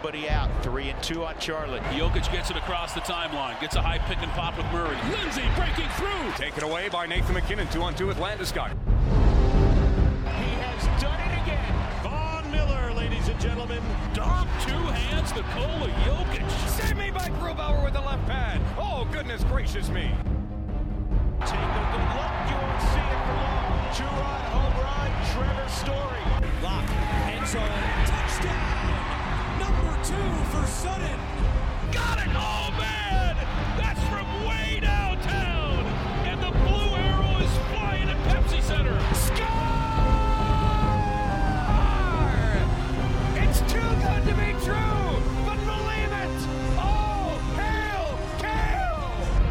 nobody out. 3-2 on Charlotte. Jokic gets it across the timeline. Gets a high pick and pop with Murray. Lindsay breaking through. Taken away by Nathan McKinnon. 2-on-2 with Landeskog. He has done it again. Von Miller, ladies and gentlemen. Dog two hands, Nikola Jokic. Save me by Grubauer with the left pad. Oh, goodness gracious me. Take a good look. You won't see it for long. Two-run home run. Trevor Story. Lock. End zone. Touchdown. Number 2 for Sutton. Got it! Oh, man! That's from way downtown! And the blue arrow is flying at Pepsi Center. Score! It's too good to be true, but believe it! Oh, hail, Kale!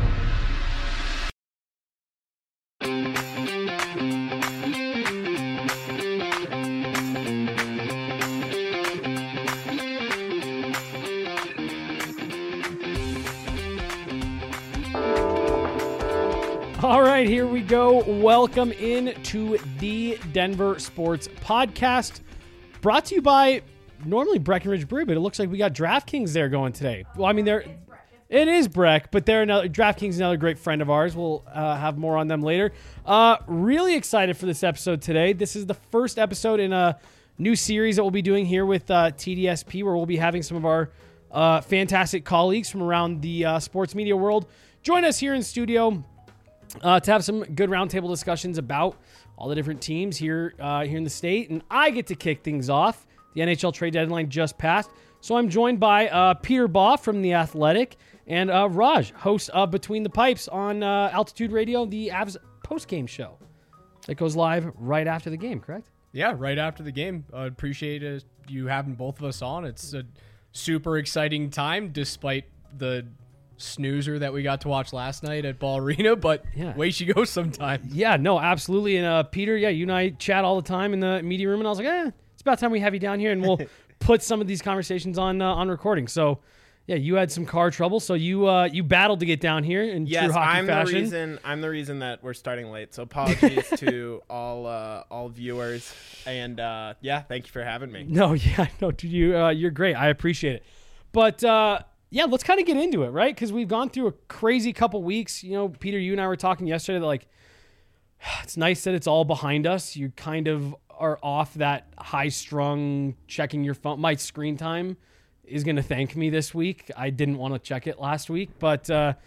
All right, here we go. Welcome in to the Denver Sports Podcast, brought to you by normally Breckenridge Brew, but it looks like we got DraftKings there going today. Well, I mean, it is Breck, but DraftKings is another great friend of ours. We'll have more on them later. Really excited for this episode today. This is the first episode in a new series that we'll be doing here with TDSP, where we'll be having some of our fantastic colleagues from around the sports media world join us here in studio to have some good roundtable discussions about all the different teams here in the state. And I get to kick things off. The NHL trade deadline just passed. So I'm joined by Peter Baugh from The Athletic and Raj, host of Between the Pipes on Altitude Radio, the Avs post-game show that goes live right after the game, correct? Yeah, right after the game. I appreciate you having both of us on. It's a super exciting time despite the snoozer that we got to watch last night at Ball Arena, but way she goes sometimes. Yeah, no, absolutely. And Peter, you and I chat all the time in the media room, and I was like, it's about time we have you down here, and we'll put some of these conversations on recording. So, yeah, you had some car trouble, so you battled to get down here in true hockey fashion. I'm the reason that we're starting late. So apologies to all viewers, and thank you for having me. No, dude, you're great. I appreciate it. But let's kind of get into it, right? Because we've gone through a crazy couple weeks. You know, Peter, you and I were talking yesterday that, like, it's nice that it's all behind us. You kind of are off that high-strung checking your phone. My screen time is going to thank me this week. I didn't want to check it last week. But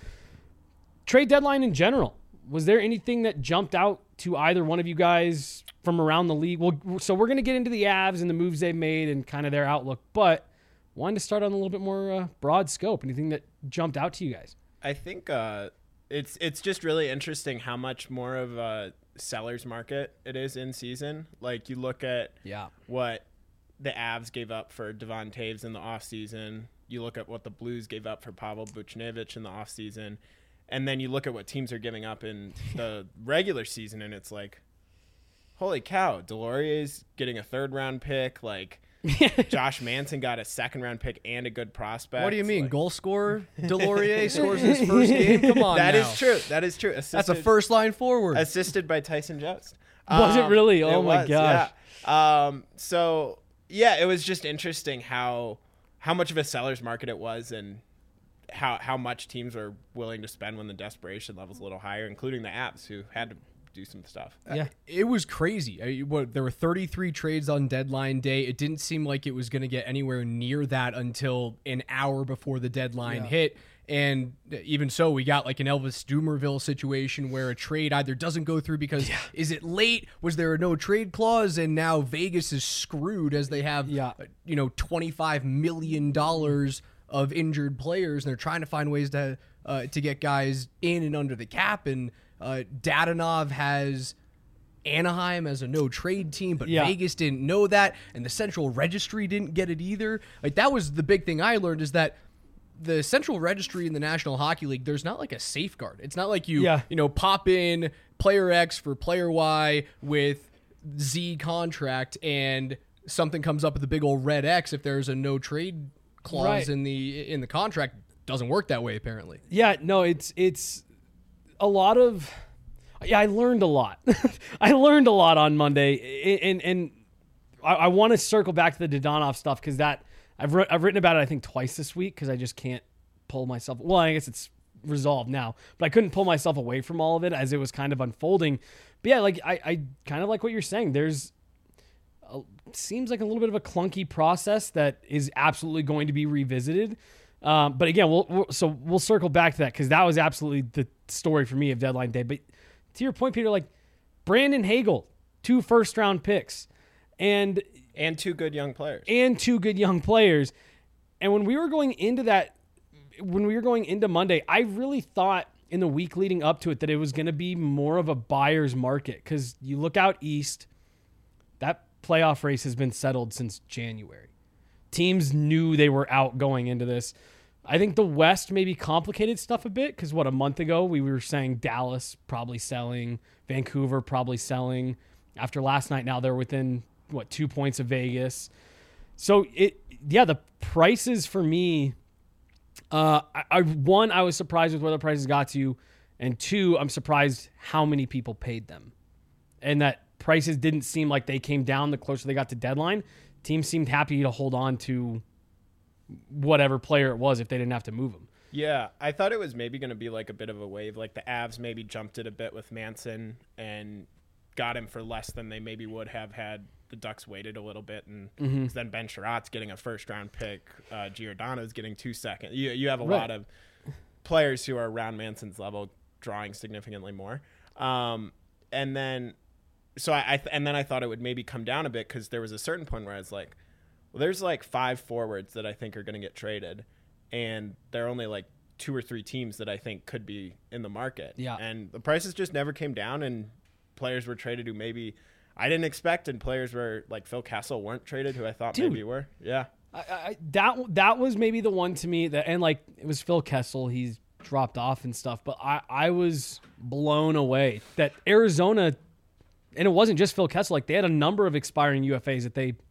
trade deadline in general, was there anything that jumped out to either one of you guys from around the league? Well, so we're going to get into the Avs and the moves they've made and kind of their outlook. But wanted to start on a little bit more broad scope. Anything that jumped out to you guys? I think it's just really interesting how much more of a seller's market it is in season. Like, you look at what the Avs gave up for Devon Toews in the offseason. You look at what the Blues gave up for Pavel Buchnevich in the offseason. And then you look at what teams are giving up in the regular season, and it's like, holy cow, Delorier's getting a third-round pick. Like, Josh Manson got a second-round pick and a good prospect. What do you mean, like, goal scorer? Delorier scores his first game? Come on That now. is true. That is true. That's a first-line forward. Assisted by Tyson Jost. Was it really? Oh, my gosh. Yeah. It was just interesting how much of a seller's market it was, and how much teams are willing to spend when the desperation level's a little higher, including the Avs, who had to do some stuff. Yeah, it was crazy. There were 33 trades on deadline day. It didn't seem like it was going to get anywhere near that until an hour before the deadline hit. And even so, we got like an Elvis Dumerville situation where a trade either doesn't go through because is it late? Was there a no trade clause? And now Vegas is screwed as they have $25 million of injured players, and they're trying to find ways to get guys in and under the cap. And Dadonov has Anaheim as a no-trade team, but Vegas didn't know that, and the Central Registry didn't get it either. Like, that was the big thing I learned, is that the Central Registry in the National Hockey League, there's not like a safeguard. It's not like you pop in player X for player Y with Z contract and something comes up with a big old red X if there's a no-trade clause in the contract. Doesn't work that way, apparently. Yeah, no, it's a lot of... Yeah, I learned a lot. I learned a lot on Monday, and I want to circle back to the Dadonov stuff, because that I've written about it, I think, twice this week because I just can't pull myself. Well, I guess it's resolved now, but I couldn't pull myself away from all of it as it was kind of unfolding. But yeah, like I kind of like what you're saying. Seems like a little bit of a clunky process that is absolutely going to be revisited. But again, we'll circle back to that because that was absolutely the story for me of deadline day. But to your point, Peter, like Brandon Hagel, 2 first-round picks, and 2 good young players. And when we were going into Monday, I really thought in the week leading up to it that it was going to be more of a buyer's market because you look out east, that playoff race has been settled since January. Teams knew they were out going into this. I think the West maybe complicated stuff a bit because a month ago we were saying Dallas probably selling, Vancouver probably selling. After last night, now they're within 2 points of Vegas. So the prices for me, I was surprised with where the prices got to, and 2, I'm surprised how many people paid them, and that prices didn't seem like they came down the closer they got to deadline. Teams seemed happy to hold on to whatever player it was if they didn't have to move them. Yeah, I thought it was maybe going to be like a bit of a wave. Like the Avs maybe jumped it a bit with Manson and got him for less than they maybe would have had the Ducks waited a little bit. And then Ben Sherratt's getting a first-round pick. Giordano's getting 2 seconds. You have a lot of players who are around Manson's level drawing significantly more. And then I thought it would maybe come down a bit because there was a certain point where I was like, well, there's like 5 forwards that I think are going to get traded, and there are only like 2 or 3 teams that I think could be in the market. Yeah. And the prices just never came down, and players were traded who maybe I didn't expect, and players were like Phil Kessel weren't traded who I thought maybe were. Yeah. That was maybe the one to me that, and like it was Phil Kessel, he's dropped off and stuff, but I was blown away that Arizona, and it wasn't just Phil Kessel, like they had a number of expiring UFAs that they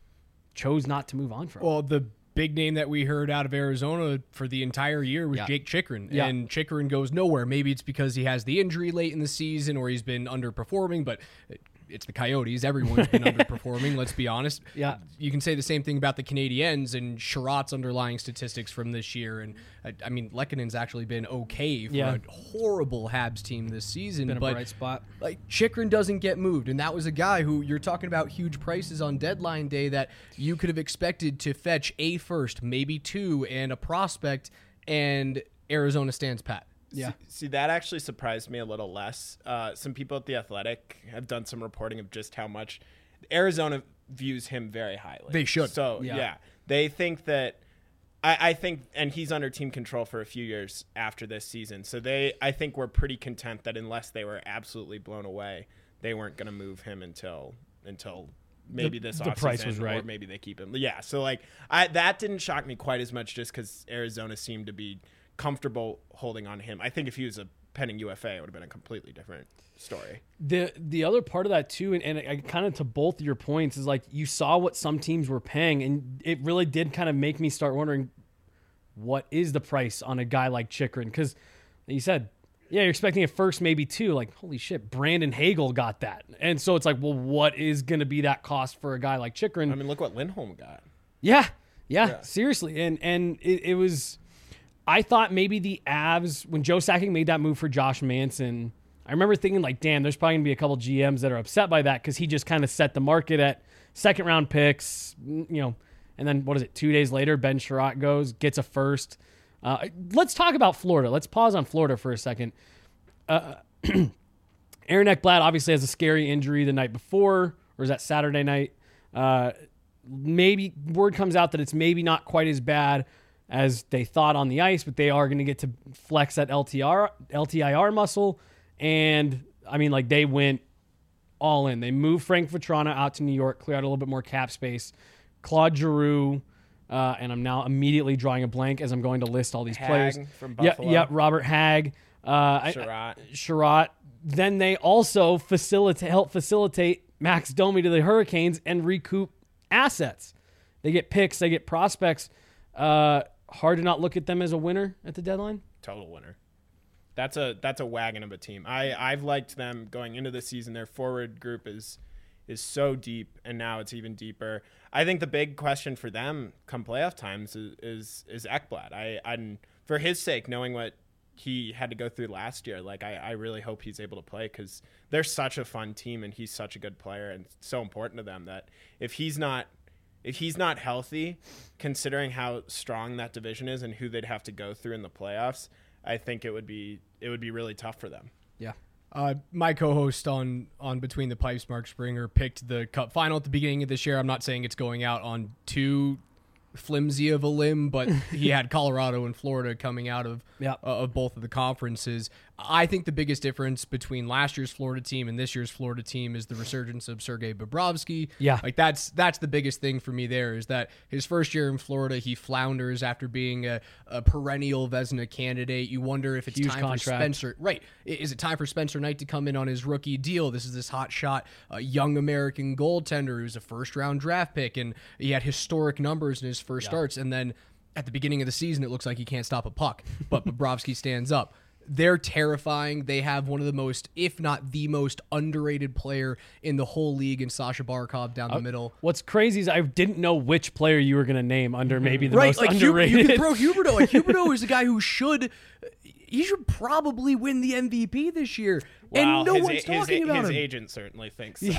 chose not to move on from. Well, the big name that we heard out of Arizona for the entire year was Jake Chychrun, and Chychrun goes nowhere. Maybe it's because he has the injury late in the season or he's been underperforming, but it's the Coyotes. Everyone's been underperforming, let's be honest. Yeah. You can say the same thing about the Canadiens and Sherratt's underlying statistics from this year. And I mean, Lekkonen's actually been okay for a horrible Habs team this season. Been a bright spot. Like, Chychrun doesn't get moved. And that was a guy who you're talking about huge prices on deadline day that you could have expected to fetch a first, maybe 2, and a prospect, and Arizona stands pat. Yeah. See, that actually surprised me a little less. Some people at The Athletic have done some reporting of just how much Arizona views him very highly. They should. So, yeah. They think that I think, and he's under team control for a few years after this season. So I think we're pretty content that unless they were absolutely blown away, they weren't going to move him until maybe this offseason, price was right, or maybe they keep him. Yeah. So like that didn't shock me quite as much just because Arizona seemed to be comfortable holding on him. I think if he was a pending UFA, it would have been a completely different story. The other part of that too, and I kind of to both of your points, is like you saw what some teams were paying, and it really did kind of make me start wondering what is the price on a guy like Chychrun, because you said, yeah, you're expecting a first, maybe 2. Like, holy shit, Brandon Hagel got that, and so it's like, well, what is going to be that cost for a guy like Chychrun? I mean, look what Lindholm got. Yeah, seriously, and it was. I thought maybe the Avs, when Joe Sakic made that move for Josh Manson, I remember thinking like, damn, there's probably going to be a couple GMs that are upset by that because he just kind of set the market at second-round picks, and then, 2 days later, Ben Sherratt gets a first. Let's talk about Florida. Let's pause on Florida for a second. Aaron Ekblad obviously has a scary injury the night before, or was that Saturday night? Maybe word comes out that it's maybe not quite as bad as they thought on the ice, but they are going to get to flex that LTIR muscle. And I mean, like, they went all in. They moved Frank Vatrano out to New York, clear out a little bit more cap space. Claude Giroux, and I'm now immediately drawing a blank as I'm going to list all these players. From Buffalo. Yeah, Robert Hagg. Sherratt. Then they also help facilitate Max Domi to the Hurricanes and recoup assets. They get picks, they get prospects. Hard to not look at them as a winner at the deadline. Total winner. That's a wagon of a team. I've liked them going into the season. Their forward group is is so deep, and now it's even deeper. I think the big question for them come playoff times is Ekblad. I for his sake, knowing what he had to go through last year, like I really hope he's able to play, because they're such a fun team and he's such a good player and so important to them that if he's not healthy, considering how strong that division is and who they'd have to go through in the playoffs, I think it would be really tough for them. Yeah. My co-host on Between the Pipes, Mark Springer, picked the Cup final at the beginning of this year. I'm not saying it's going out on too flimsy of a limb, but he had Colorado and Florida coming out of both of the conferences. I think the biggest difference between last year's Florida team and this year's Florida team is the resurgence of Sergei Bobrovsky. Yeah. Like that's the biggest thing for me there, is that his first year in Florida, he flounders after being a perennial Vezina candidate. You wonder if it's Huge time contract. for Spencer. Right. Is it time for Spencer Knight to come in on his rookie deal? This is this hot shot, young American goaltender who's a first-round draft pick, and he had historic numbers in his first starts. And then at the beginning of the season, it looks like he can't stop a puck, but Bobrovsky stands up. They're terrifying. They have one of the most, if not the most underrated player in the whole league in Sasha Barkov down the middle. What's crazy is I didn't know which player you were going to name under maybe the most like underrated. You can throw Huberdeau. Like Huberdeau is a guy who should probably win the MVP this year. Wow, and no one's talking about his him. agent certainly thinks so.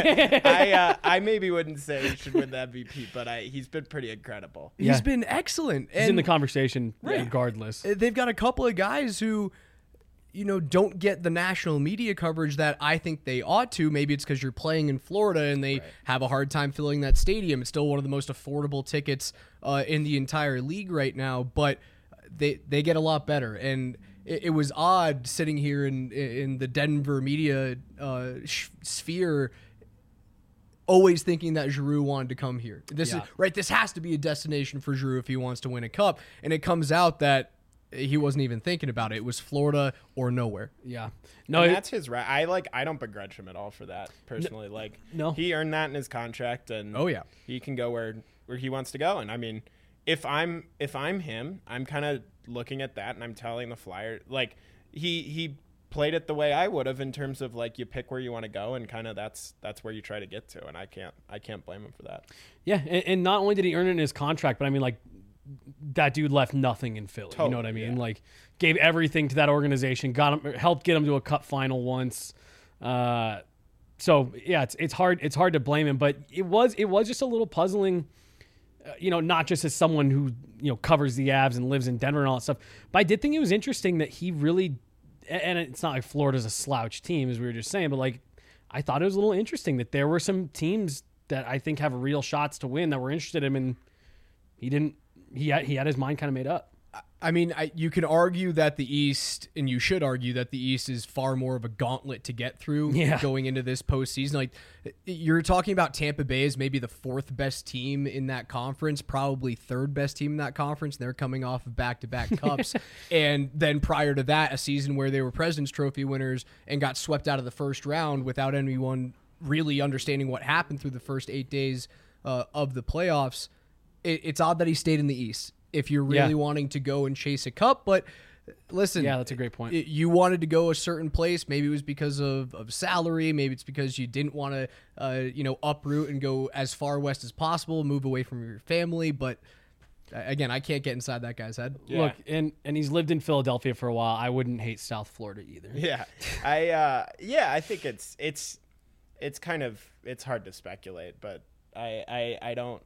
I maybe wouldn't say he should win the MVP, but he's been pretty incredible. He's been excellent. He's in the conversation regardless. They've got a couple of guys who, don't get the national media coverage that I think they ought to. Maybe it's because you're playing in Florida and they have a hard time filling that stadium. It's still one of the most affordable tickets in the entire league right now, but they get a lot better. And it was odd sitting here in the Denver media sphere, always thinking that Giroux wanted to come here. This has to be a destination for Giroux if he wants to win a cup. And it comes out that he wasn't even thinking about it. It was Florida or nowhere. Yeah. No, and that's his right. I don't begrudge him at all for that personally. No. He earned that in his contract, and he can go where he wants to go. And I mean, if I'm him, I'm kind of looking at that and I'm telling the Flyer, like he played it the way I would have, in terms of like, you pick where you want to go and kind of that's where you try to get to. And I can't blame him for that. Yeah. And not only did he earn it in his contract, but I mean, like, that dude left nothing in Philly. Totally, you know what I mean? Like, gave everything to that organization, helped get him to a cup final once. So yeah, it's hard to blame him, but it was just a little puzzling, not just as someone who, covers the Avs and lives in Denver and all that stuff, but I did think it was interesting that he really, and it's not like Florida's a slouch team, as we were just saying, but like, I thought it was a little interesting that there were some teams that I think have real shots to win that were interested in him, and he didn't. He had his mind kind of made up. I mean, you can argue that the East, and you should argue that the East is far more of a gauntlet to get through going into this postseason. Like, you're talking about Tampa Bay as maybe the fourth best team in that conference, probably third best team in that conference. They're coming off of back-to-back cups. And then prior to that, a season where they were President's Trophy winners and got swept out of the first round without anyone really understanding what happened through the first 8 days of the playoffs. It's odd that he stayed in the East if you're really wanting to go and chase a cup. But listen, that's a great point. You wanted to go a certain place. Maybe it was because of salary. Maybe it's because you didn't want to, uproot and go as far west as possible, move away from your family. But again, I can't get inside that guy's head. Yeah. Look, and he's lived in Philadelphia for a while. I wouldn't hate South Florida either. Yeah, I think it's kind of, it's hard to speculate, but I don't.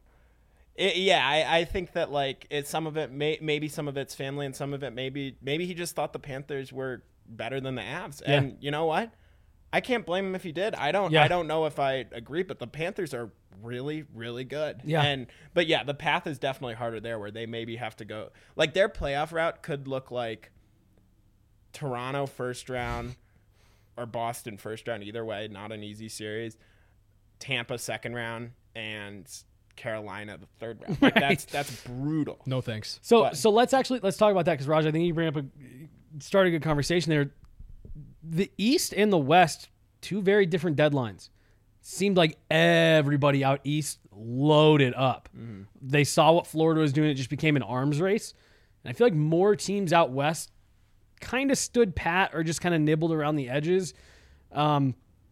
I think that like some of it maybe some of it's family, and some of it maybe he just thought the Panthers were better than the Avs. And you know what? I can't blame him if he did. I don't know if I agree, but the Panthers are really, really good. Yeah. But the path is definitely harder there, where they maybe have to go, like, their playoff route could look like Toronto first round or Boston first round, either way, not an easy series. Tampa second round and Carolina the third round. Like, that's brutal. No thanks. So let's talk about that, because Raj, I think you bring up started a good conversation there. The East and the West, two very different deadlines. Seemed like everybody out East loaded up. Mm-hmm. They saw what Florida was doing. It just became an arms race. And I feel like more teams out West kind of stood pat or just kind of nibbled around the edges.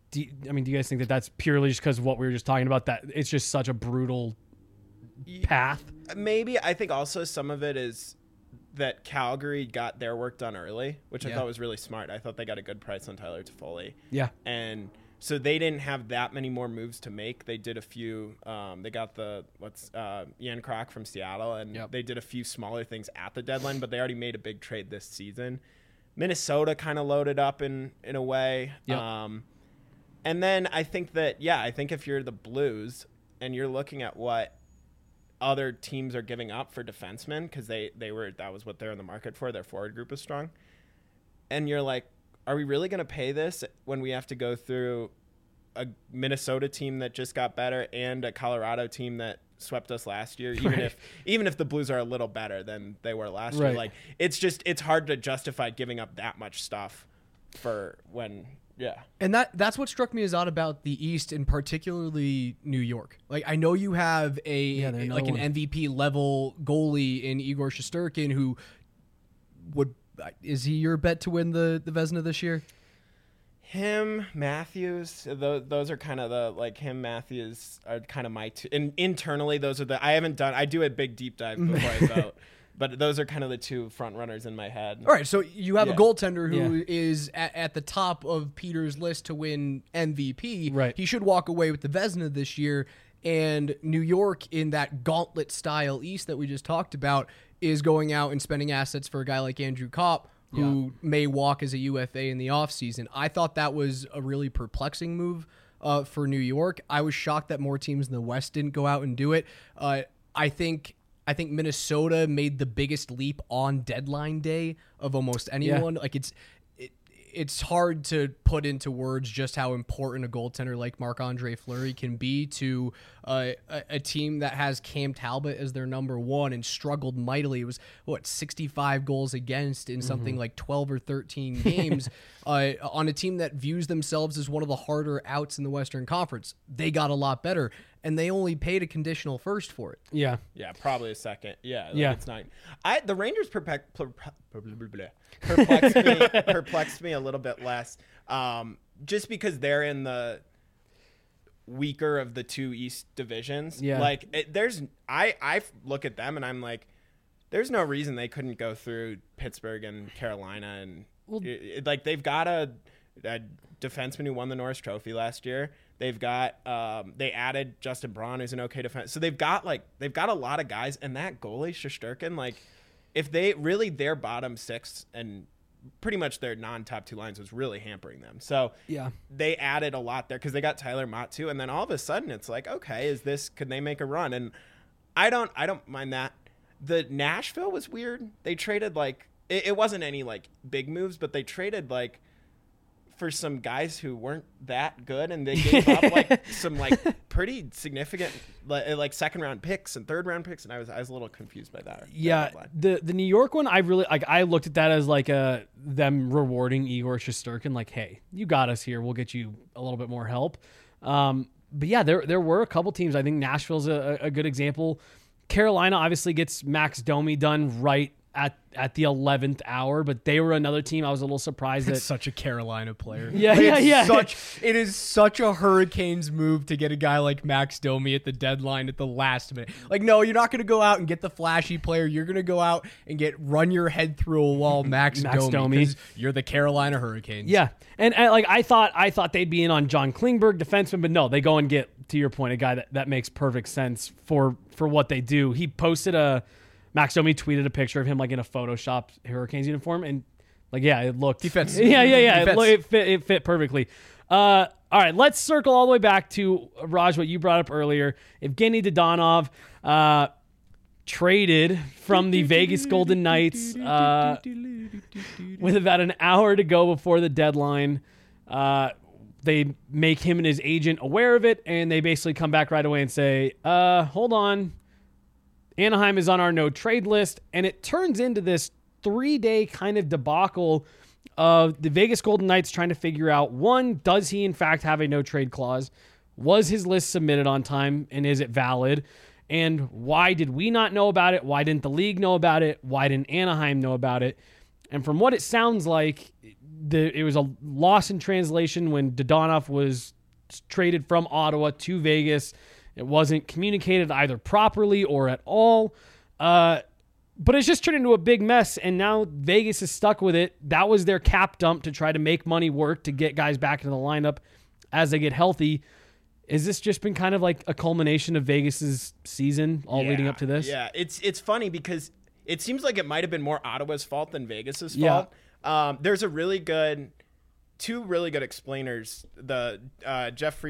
do you guys think that that's purely just because of what we were just talking about, that it's just such a brutal path? Maybe. I think also some of it is that Calgary got their work done early, which I thought was really smart. I thought they got a good price on Tyler Toffoli. Yeah. And so they didn't have that many more moves to make. They did a few. They got Ian Krok from Seattle, and they did a few smaller things at the deadline, but they already made a big trade this season. Minnesota kind of loaded up in a way. Yep. And then I think if you're the Blues and you're looking at what other teams are giving up for defensemen, because that was what they're in the market for. Their forward group is strong. And you're like, are we really going to pay this when we have to go through a Minnesota team that just got better and a Colorado team that swept us last year, even if the Blues are a little better than they were last year? Like, it's hard to justify giving up that much stuff for when. Yeah. And that's what struck me as odd about the East, and particularly New York. Like, I know you have an MVP level goalie in Igor Shesterkin, who is he your bet to win the Vezina this year? Him, Matthews, those are kind of him, Matthews are kind of my two. And internally, those are I do a big deep dive before I vote. But those are kind of the two front runners in my head. All right, so you have a goaltender who is at the top of Peter's list to win MVP. Right. He should walk away with the Vezina this year. And New York, in that gauntlet-style East that we just talked about, is going out and spending assets for a guy like Andrew Kopp, who may walk as a UFA in the offseason. I thought that was a really perplexing move for New York. I was shocked that more teams in the West didn't go out and do it. I think Minnesota made the biggest leap on deadline day of almost anyone. Yeah. Like, it's hard to put into words just how important a goaltender like Marc-Andre Fleury can be to a team that has Cam Talbot as their number one and struggled mightily. It was 65 goals against in something like 12 or 13 games on a team that views themselves as one of the harder outs in the Western Conference. They got a lot better, and they only paid a conditional first for it. Yeah. Yeah, probably a second. Yeah. It's not. The Rangers perplexed me a little bit less, just because they're in the weaker of the two East divisions. Yeah. I look at them and I'm like, there's no reason they couldn't go through Pittsburgh and Carolina, and they've got a defenseman who won the Norris Trophy last year. They've got they added Justin Braun, who's an okay defense. So they've got a lot of guys, and that goalie Shesterkin, if they really, their bottom six and pretty much their non-top two lines was really hampering them. So they added a lot there because they got Tyler Mott too, and then all of a sudden it's like, okay, could they make a run? And I don't mind that. The Nashville was weird. They traded it wasn't any big moves, but they traded for some guys who weren't that good, and they gave up some pretty significant second round picks and third round picks, and I was a little confused by that. Yeah, the New York one, I really I looked at that as them rewarding Igor Shesterkin, hey, you got us here, we'll get you a little bit more help. But yeah, there were a couple teams. I think Nashville's a good example. Carolina obviously gets Max Domi done right at the 11th hour, but they were another team I was a little surprised It's such a Carolina player. Yeah. It is such a Hurricanes move to get a guy like Max Domi at the deadline at the last minute. No, you're not going to go out and get the flashy player. You're going to go out and run your head through a wall, Max Domi, because you're the Carolina Hurricanes. Yeah, and I thought they'd be in on John Klingberg, defenseman, but no, they go and get, to your point, a guy that makes perfect sense for what they do. He posted Max Domi tweeted a picture of him in a Photoshop Hurricanes uniform, and it looked. He fits. Yeah. He It fit perfectly. All right, let's circle all the way back to Raj, what you brought up earlier. Evgeny Dadonov traded from the Vegas Golden Knights with about an hour to go before the deadline. They make him and his agent aware of it, and they basically come back right away and say, hold on. Anaheim is on our no-trade list, and it turns into this 3-day kind of debacle of the Vegas Golden Knights trying to figure out, one, does he in fact have a no-trade clause? Was his list submitted on time, and is it valid? And why did we not know about it? Why didn't the league know about it? Why didn't Anaheim know about it? And from what it sounds like, it was a loss in translation when Dadonov was traded from Ottawa to Vegas. It wasn't communicated either properly or at all. But it's just turned into a big mess, and now Vegas is stuck with it. That was their cap dump to try to make money work to get guys back into the lineup as they get healthy. Has this just been kind of like a culmination of Vegas's season all leading up to this? Yeah, it's funny because it seems like it might have been more Ottawa's fault than Vegas's fault. There's two really good explainers. The Jeff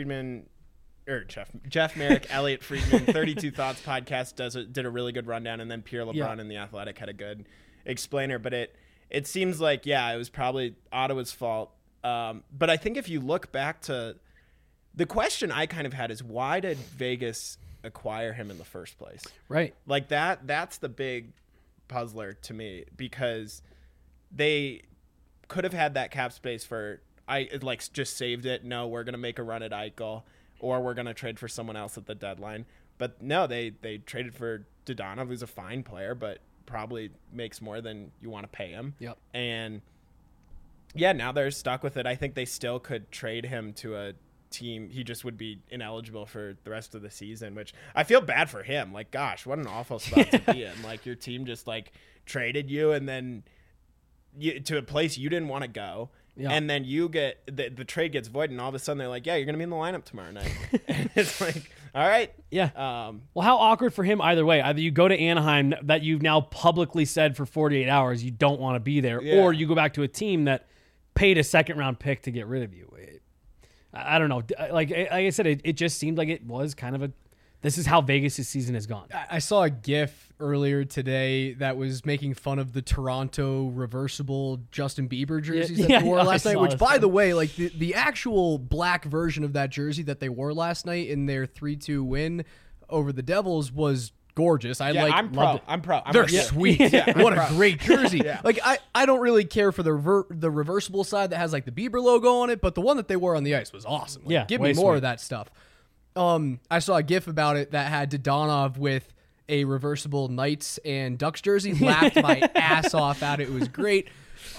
Merrick, Elliot Friedman, 32 Thoughts podcast did a really good rundown, and then Pierre LeBrun in The Athletic had a good explainer. But it seems like it was probably Ottawa's fault. But I think if you look back to the question I kind of had is why did Vegas acquire him in the first place? Right. Like that's the big puzzler to me, because they could have had that cap space for just saved it. No, we're going to make a run at Eichel, or we're going to trade for someone else at the deadline. But no, they traded for Dadonov, who's a fine player, but probably makes more than you want to pay him. Yep. And yeah, now they're stuck with it. I think they still could trade him to a team. He just would be ineligible for the rest of the season, which I feel bad for him. Like, gosh, what an awful spot to be in. Like, your team just like traded you and then to a place you didn't want to go. Yeah. And then you get the trade gets void, and all of a sudden they're like, yeah, you're going to be in the lineup tomorrow night. And it's like, all right. Yeah. Well, how awkward for him either way. Either you go to Anaheim that you've now publicly said for 48 hours you don't want to be there, or you go back to a team that paid a second-round pick to get rid of you. I don't know. Like I said, it just seemed like it was kind of this is how Vegas' season has gone. I saw a GIF earlier today that was making fun of the Toronto reversible Justin Bieber jerseys that they wore last night, which, by the way, like the actual black version of that jersey that they wore last night in their 3-2 win over the Devils was gorgeous. I'm pro. They're sweet. What a great jersey. Like I don't really care for the reversible side that has like the Bieber logo on it, but the one that they wore on the ice was awesome. Like, give me more of that stuff. I saw a GIF about it that had Dadonov with a reversible Knights and Ducks jersey. Laughed my ass off at it. It was great.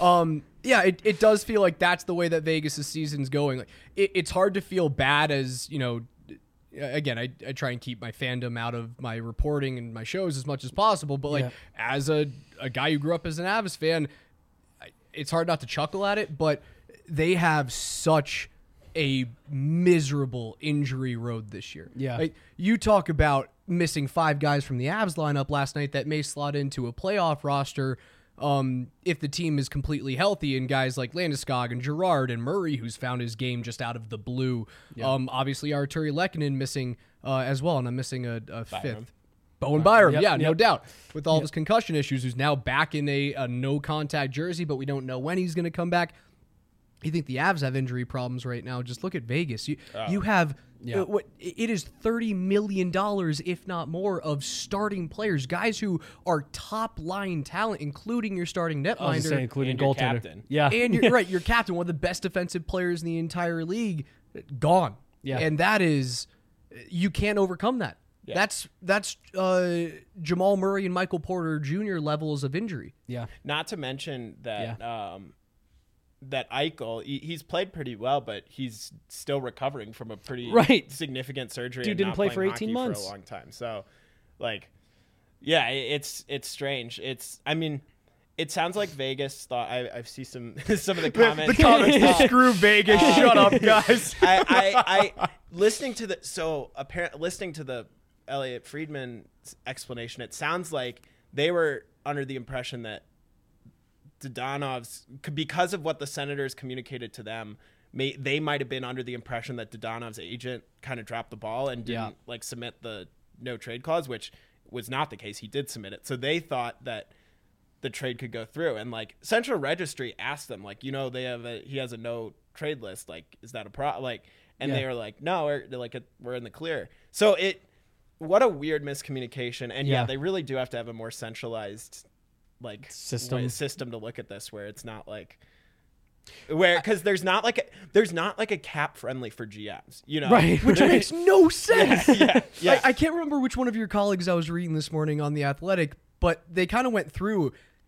It does feel like that's the way that Vegas' season's going. Like it's hard to feel bad as, again, I try and keep my fandom out of my reporting and my shows as much as possible. But as a guy who grew up as an Avs fan, it's hard not to chuckle at it. But they have such a miserable injury road this year. Yeah. Like, you talk about missing 5 guys from the Avs lineup last night that may slot into a playoff roster if the team is completely healthy, and guys like Landeskog and Girard and Murray, who's found his game just out of the blue. Obviously Arturi Lehkonen missing as well, and I'm missing a fifth. Bowen Byram, no doubt. With all of his concussion issues, who's now back in a no-contact jersey, but we don't know when he's going to come back. You think the Avs have injury problems right now? Just look at Vegas. You have it is $30 million, if not more, of starting players, guys who are top line talent, including your starting netminder, including goaltender, captain. And you're right, your captain, one of the best defensive players in the entire league, gone. Yeah, and that is, you can't overcome that. Yeah. That's Jamal Murray and Michael Porter Jr. levels of injury. Yeah, not to mention that. That Eichel, he's played pretty well, but he's still recovering from a pretty significant surgery. Dude didn't play for 18 months for a long time. So, it's strange. It sounds like Vegas thought. I see some of the comments. The comments. Screw Vegas. Shut up, guys. I listening to the Elliot Friedman explanation. It sounds like they were under the impression that Dadonov's, because of what the Senators communicated to them, they might have been under the impression that Dadonov's agent kind of dropped the ball and didn't submit the no trade clause, which was not the case. He did submit it. So they thought that the trade could go through, and Central Registry asked them, he has a no trade list. Like, is that a problem? And they were like, no, we're in the clear. So what a weird miscommunication. And they really do have to have a more centralized system to look at this, where it's not because there's not a cap friendly for GMs, right? Which makes no sense. Yeah. I can't remember which one of your colleagues I was reading this morning on The Athletic, but they kind of went through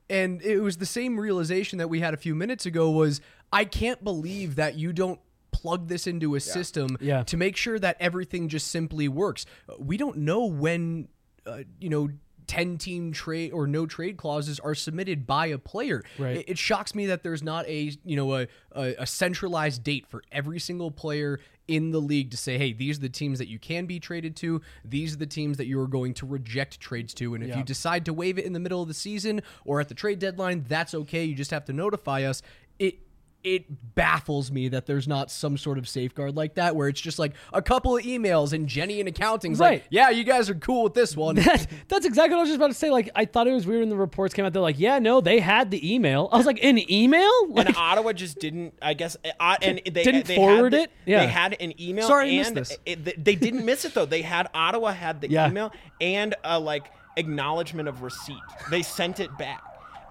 And it was the same realization that we had a few minutes ago was, I can't believe that you don't plug this into a system to make sure that everything just simply works. We don't know when, 10-team trade or no trade clauses are submitted by a player. Right. It shocks me that there's not a centralized date for every single player in the league to say, hey, these are the teams that you can be traded to. These are the teams that you are going to reject trades to. And if you decide to waive it in the middle of the season or at the trade deadline, that's okay. You just have to notify us. It baffles me that there's not some sort of safeguard like that where it's just like a couple of emails and Jenny in accounting's like, yeah, you guys are cool with this one. That's exactly what I was just about to say. Like, I thought it was weird when the reports came out. They're like, yeah, no, they had the email. I was like, an email? Like, and Ottawa just didn't, I guess, and they didn't forward it? Yeah. They had an email. Sorry, I and missed this. They didn't miss it, though. Ottawa had the email and acknowledgement of receipt. They sent it back.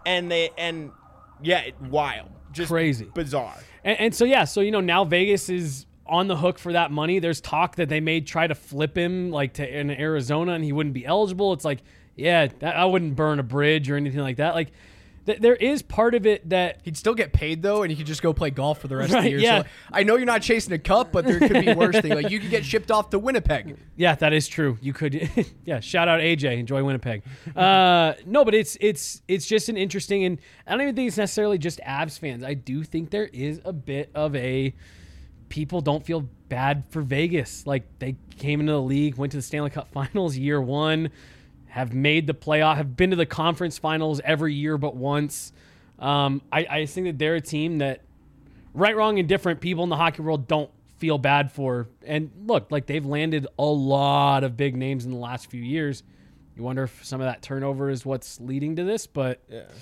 Wild. Just crazy. Bizarre. And so now Vegas is on the hook for that money. There's talk that they may try to flip him in Arizona and he wouldn't be eligible. It's like, I wouldn't burn a bridge or anything like that. Like, there is part of it that he'd still get paid though, and he could just go play golf for the rest of the year. Yeah. So I know you're not chasing a cup, but there could be worse things. Like you could get shipped off to Winnipeg. Yeah, that is true. You could. Shout out AJ. Enjoy Winnipeg. No, but it's just an interesting, and I don't even think it's necessarily just Avs fans. I do think there is a bit of people don't feel bad for Vegas. Like they came into the league, went to the Stanley Cup Finals year one. Have made the playoff, have been to the conference finals every year but once. I think that they're a team that, right, wrong, and different, people in the hockey world don't feel bad for. And look, like they've landed a lot of big names in the last few years. You wonder if some of that turnover is what's leading to this, but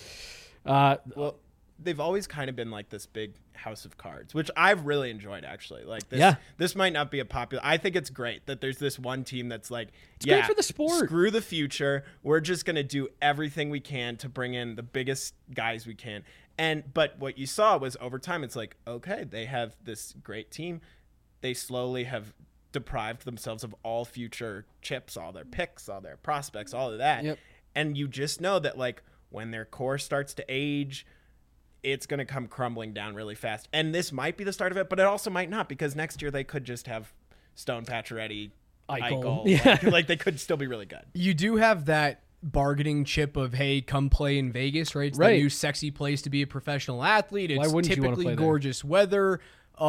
they've always kind of been like this big house of cards, which I've really enjoyed actually. Like this might not be a popular. I think it's great that there's this one team that's like, it's great for the sport. Screw the future. We're just gonna do everything we can to bring in the biggest guys we can. But what you saw was over time, it's like, okay, they have this great team. They slowly have deprived themselves of all future chips, all their picks, all their prospects, all of that. Yep. And you just know that like when their core starts to age, it's going to come crumbling down really fast. And this might be the start of it, but it also might not, because next year they could just have Stone, Pacioretty, Eichel. Yeah. Like they could still be really good. You do have that bargaining chip of, hey, come play in Vegas, right? It's the new sexy place to be a professional athlete. It's typically gorgeous weather.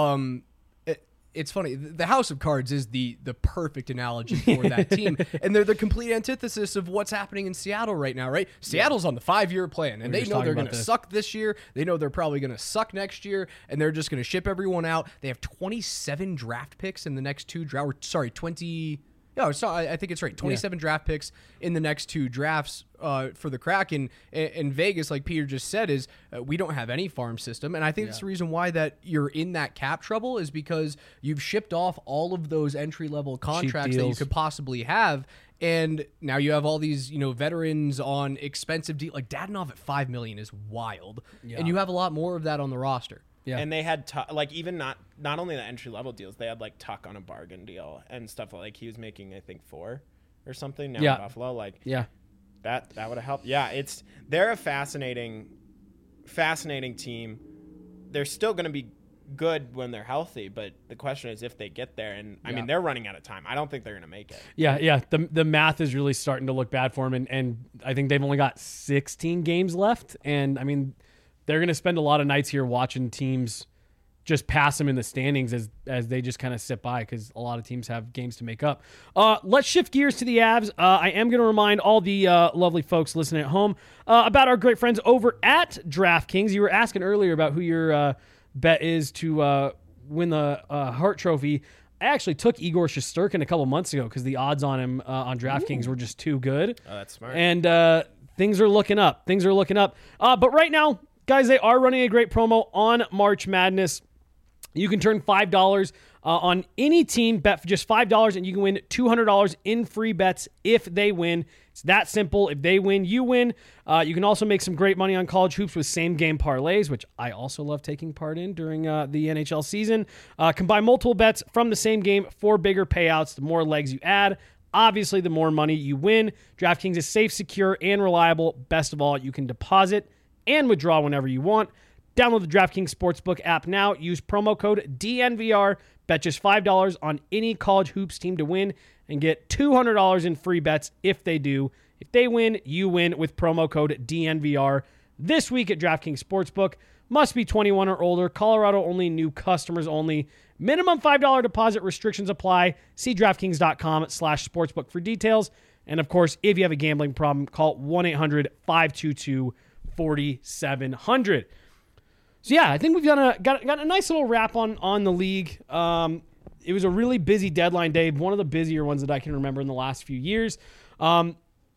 It's funny. The House of Cards is the perfect analogy for that team. And they're the complete antithesis of what's happening in Seattle right now, right? Seattle's on the 5-year plan, and they know they're going to suck this year. They know they're probably going to suck next year, and they're just going to ship everyone out. They have 27 draft picks in the next two drafts. Sorry, 20... No, I think it's right. 27 draft picks in the next two drafts for the Kraken. And Vegas, like Peter just said, is we don't have any farm system. And I think that's the reason why that you're in that cap trouble is because you've shipped off all of those entry-level contracts that you could possibly have. And now you have all these, veterans on expensive deals. Like Dadonov at $5 million is wild. Yeah. And you have a lot more of that on the roster. Yeah. And they had even not only the entry level deals, they had like Tuck on a bargain deal and stuff like he was making I think 4 or something now in Buffalo. Like that would have helped. Yeah, they're a fascinating team. They're still going to be good when they're healthy, but the question is if they get there. And I mean they're running out of time. I don't think they're going to make it. Yeah. The math is really starting to look bad for them, and I think they've only got 16 games left, and I mean. They're going to spend a lot of nights here watching teams just pass them in the standings as they just kind of sit by because a lot of teams have games to make up. Let's shift gears to the Avs. I am going to remind all the lovely folks listening at home about our great friends over at DraftKings. You were asking earlier about who your bet is to win the Hart Trophy. I actually took Igor Shesterkin a couple months ago because the odds on him on DraftKings were just too good. Oh, that's smart. And things are looking up. But right now, guys, they are running a great promo on March Madness. You can turn $5 on any team, bet for just $5, and you can win $200 in free bets if they win. It's that simple. If they win, you win. You can also make some great money on college hoops with same-game parlays, which I also love taking part in during the NHL season. Combine multiple bets from the same game for bigger payouts. The more legs you add, Obviously, the more money you win. DraftKings is safe, secure, and reliable. Best of all, you can deposit and withdraw whenever you want. Download the DraftKings Sportsbook app now. Use promo code DNVR. Bet just $5 on any college hoops team to win and get $200 in free bets if they do. If they win, you win with promo code DNVR. This week at DraftKings Sportsbook. Must be 21 or older. Colorado only. New customers only. Minimum $5 deposit. Restrictions apply. See DraftKings.com/sportsbook for details. And, of course, if you have a gambling problem, call 1-800-522-4700. So, yeah, I think we've got a nice little wrap on the league. It was a really busy deadline day, one of the busier ones that I can remember in the last few years. And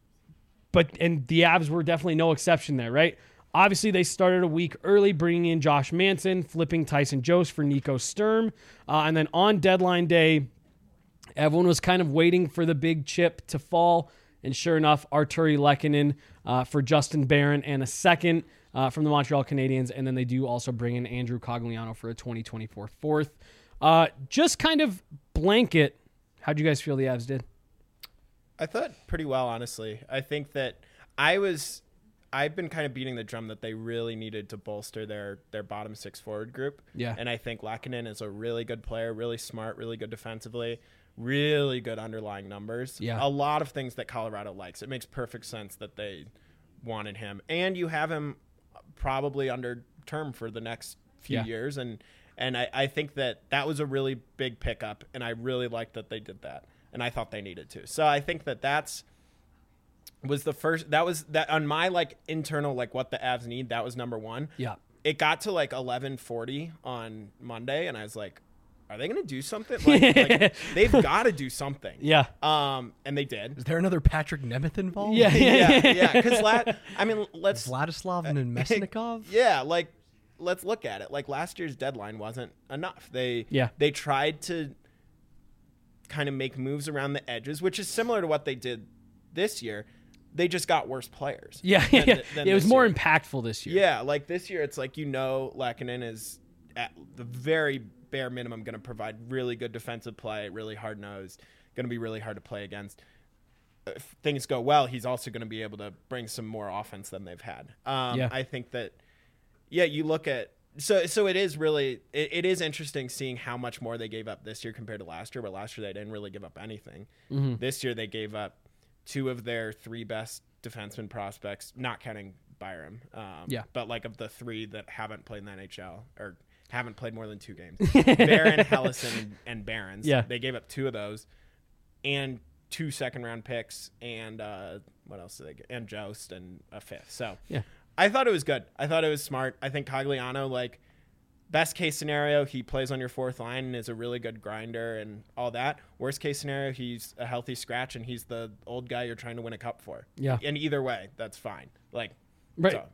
the Avs were definitely no exception there, right? Obviously, they started a week early, bringing in Josh Manson, flipping Tyson Jost for Nico Sturm. And then on deadline day, everyone was kind of waiting for the big chip to fall. And sure enough, Artturi Lehkonen for Justin Barron and a second from the Montreal Canadiens. And then they do also bring in Andrew Cogliano for a 2024 fourth. Just kind of blanket, how'd you guys feel the Avs did? I thought pretty well, honestly. I think that I've been kind of beating the drum that they really needed to bolster their bottom six forward group. Yeah. And I think Lehkonen is a really good player, really smart, really good defensively, really good underlying numbers. Yeah. A lot of things that Colorado likes. It makes perfect sense that they wanted him. And you have him probably under term for the next few years. And I think that was a really big pickup, and I really liked that they did that. And I thought they needed to. So I think that was the first. That was that on my internal what the Avs need. That was number one. Yeah. It got to 11:40 on Monday, and I was like, "Are they going to do something? They've got to do something." Yeah. And they did. Is there another Patrick Nemeth involved? Yeah. Because let's Vladislav and Mesnikov. Yeah. Let's look at it. Last year's deadline wasn't enough. They tried to kind of make moves around the edges, which is similar to what they did this year. They just got worse players. Yeah. It was more impactful this year. Yeah. This year, it's Lehkonen is at the very bare minimum going to provide really good defensive play, really hard-nosed, going to be really hard to play against. If things go well, he's also going to be able to bring some more offense than they've had. I think that, you look at so it is really it is interesting seeing how much more they gave up this year compared to last year. But last year they didn't really give up anything. Mm-hmm. This year they gave up two of their three best defenseman prospects, not counting Byram. But of the three that haven't played in the NHL or haven't played more than 2 games, Barron, Hellison, and Barons. Yeah. They gave up 2 of those, and 2 second-round picks, and what else did they get? And Jost and a 5th. So I thought it was good. I thought it was smart. I think Cogliano, best case scenario, he plays on your 4th line and is a really good grinder and all that. Worst case scenario, he's a healthy scratch and he's the old guy you're trying to win a cup for. Yeah. And either way, that's fine. Right. So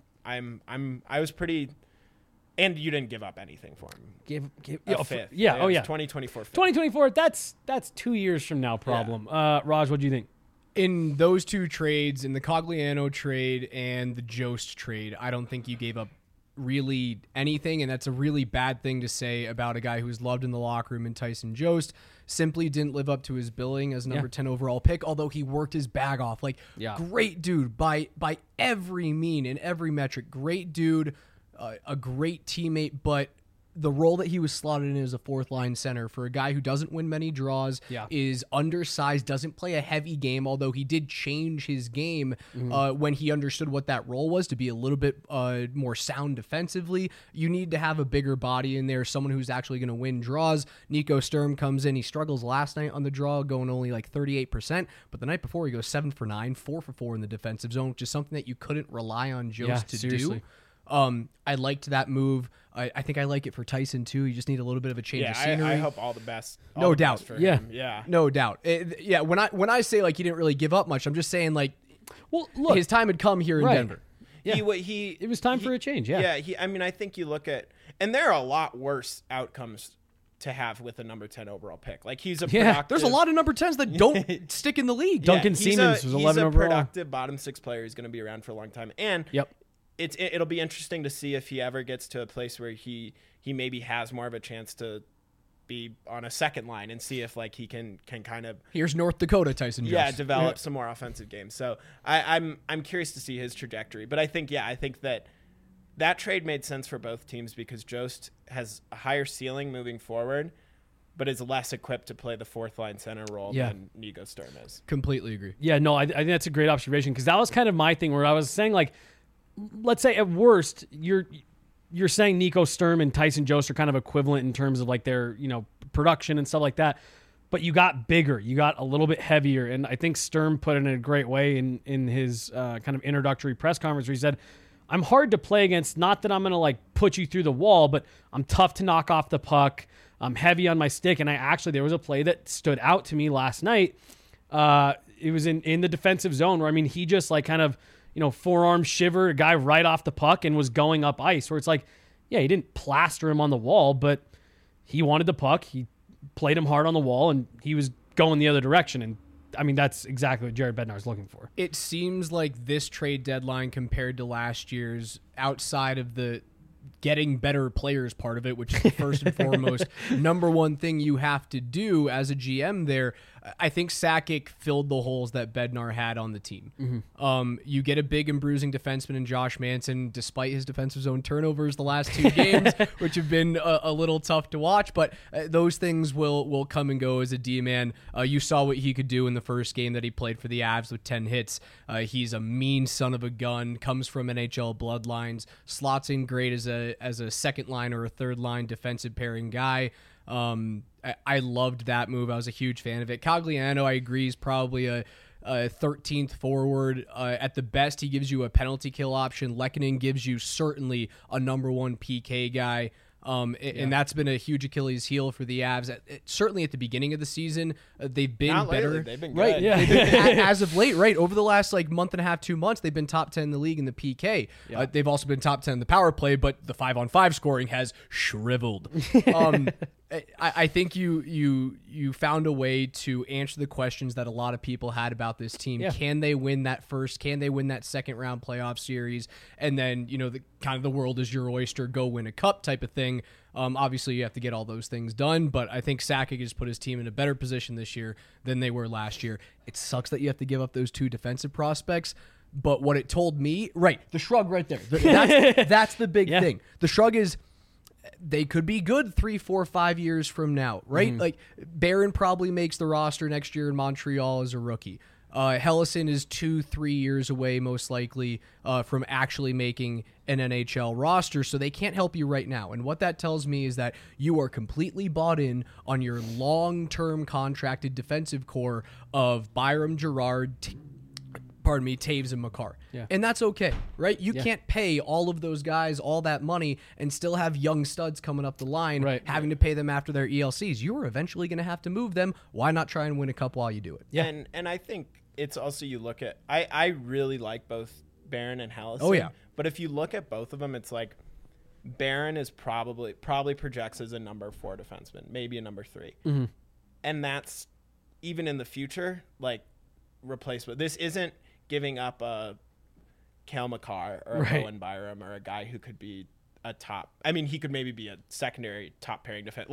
I was pretty. And you didn't give up anything for him. A 5th. Yeah. 2024. 2024. That's 2 years from now. Problem. Yeah. Raj, what do you think? In those 2 trades, in the Cogliano trade and the Jost trade, I don't think you gave up really anything, and that's a really bad thing to say about a guy who's loved in the locker room. And Tyson Jost simply didn't live up to his billing as number 10 overall pick, although he worked his bag off. Great dude by every mean in every metric. Great dude. A great teammate, but the role that he was slotted in as a 4th line center for a guy who doesn't win many draws, is undersized, doesn't play a heavy game, although he did change his game when he understood what that role was, to be a little bit more sound defensively. You need to have a bigger body in there, someone who's actually going to win draws. Nico Sturm comes in. He struggles last night on the draw, going only 38%, but the night before he goes 7 for 9, 4 for 4 in the defensive zone, which is something that you couldn't rely on Jost to do. I liked that move. I think I like it for Tyson too. You just need a little bit of a change of scenery. I hope all the best. No doubt. For him. Yeah. No doubt. When I say he didn't really give up much, I'm just saying well, look, his time had come here in Denver. Yeah. It was time for a change. Yeah. Yeah. I think you look at, and there are a lot worse outcomes to have with a number 10 overall pick. He's a productive. There's a lot of number 10s that don't stick in the league. Duncan Siemens was 11 overall. He's a productive bottom 6 player. He's going to be around for a long time. And it'll be interesting to see if he ever gets to a place where he maybe has more of a chance to be on a second line and see if like he can kind of Here's North Dakota Tyson Jost. develop some more offensive games. So I'm curious to see his trajectory. But I think that trade made sense for both teams because Jost has a higher ceiling moving forward, but is less equipped to play the fourth line center role than Nico Sturm is. Completely agree. Yeah, no, I think that's a great observation because that was kind of my thing where I was saying, like, let's say at worst, you're saying Nico Sturm and Tyson Jost are kind of equivalent in terms of like their, production and stuff like that. But you got bigger, you got a little bit heavier. And I think Sturm put it in a great way in his kind of introductory press conference where he said, I'm hard to play against. Not that I'm going to like put you through the wall, but I'm tough to knock off the puck. I'm heavy on my stick. And there was a play that stood out to me last night. It was in the defensive zone where, he just like kind of, forearm shiver a guy right off the puck and was going up ice where it's like, yeah, he didn't plaster him on the wall, but he wanted the puck. He played him hard on the wall and he was going the other direction. And that's exactly what Jared Bednar is looking for. It seems like this trade deadline compared to last year's, outside of the getting better players part of it, which is the first and foremost number one thing you have to do as a GM there, I think Sakic filled the holes that Bednar had on the team. Mm-hmm. You get a big and bruising defenseman in Josh Manson, despite his defensive zone turnovers the last 2 games, which have been a little tough to watch, but those things will come and go as a D-man. You saw what he could do in the first game that he played for the Avs with 10 hits. He's a mean son of a gun, comes from NHL bloodlines, slots in great as a second line or a third line defensive pairing guy. I loved that move. I was a huge fan of it. Cogliano, I agree, is probably a 13th forward. At the best, he gives you a penalty kill option. Lehkonen gives you certainly a number one PK guy. And that's been a huge Achilles heel for the Avs. Certainly at the beginning of the season, they've been Not better. lately. They've been good. Right, yeah. As of late, right, over the last month and a half, 2 months, they've been top 10 in the league in the PK. Yeah. They've also been top 10 in the power play, but the 5-on-5 scoring has shriveled. I think you found a way to answer the questions that a lot of people had about this team. Yeah. Can they win that first? Can they win that second round playoff series? And then, the world is your oyster, go win a cup type of thing. Obviously, you have to get all those things done, but I think Sakic has put his team in a better position this year than they were last year. It sucks that you have to give up those 2 defensive prospects, but what it told me, right, the shrug right there, that's the big thing. The shrug is they could be good 3, 4, 5 years from now, right? Mm-hmm. Like Barron probably makes the roster next year in Montreal as a rookie. Helleson is 2-3 years away, most likely, from actually making an NHL roster, so they can't help you right now. And what that tells me is that you are completely bought in on your long-term contracted defensive core of Byram, Girard, Taves, and Makar. Yeah. And that's okay, right? You can't pay all of those guys all that money and still have young studs coming up the line, having to pay them after their ELCs. You are eventually going to have to move them. Why not try and win a cup while you do it? Yeah. And I think it's also, you look at, I really like both Barron and Helleson. Oh, yeah. But if you look at both of them, it's like Barron is probably projects as a number 4 defenseman, maybe a number 3. Mm-hmm. And that's, even in the future, like, replaced with, this isn't giving up a Cale Makar or a Bowen Byram or a guy who could be a top. He could maybe be a secondary top pairing defense,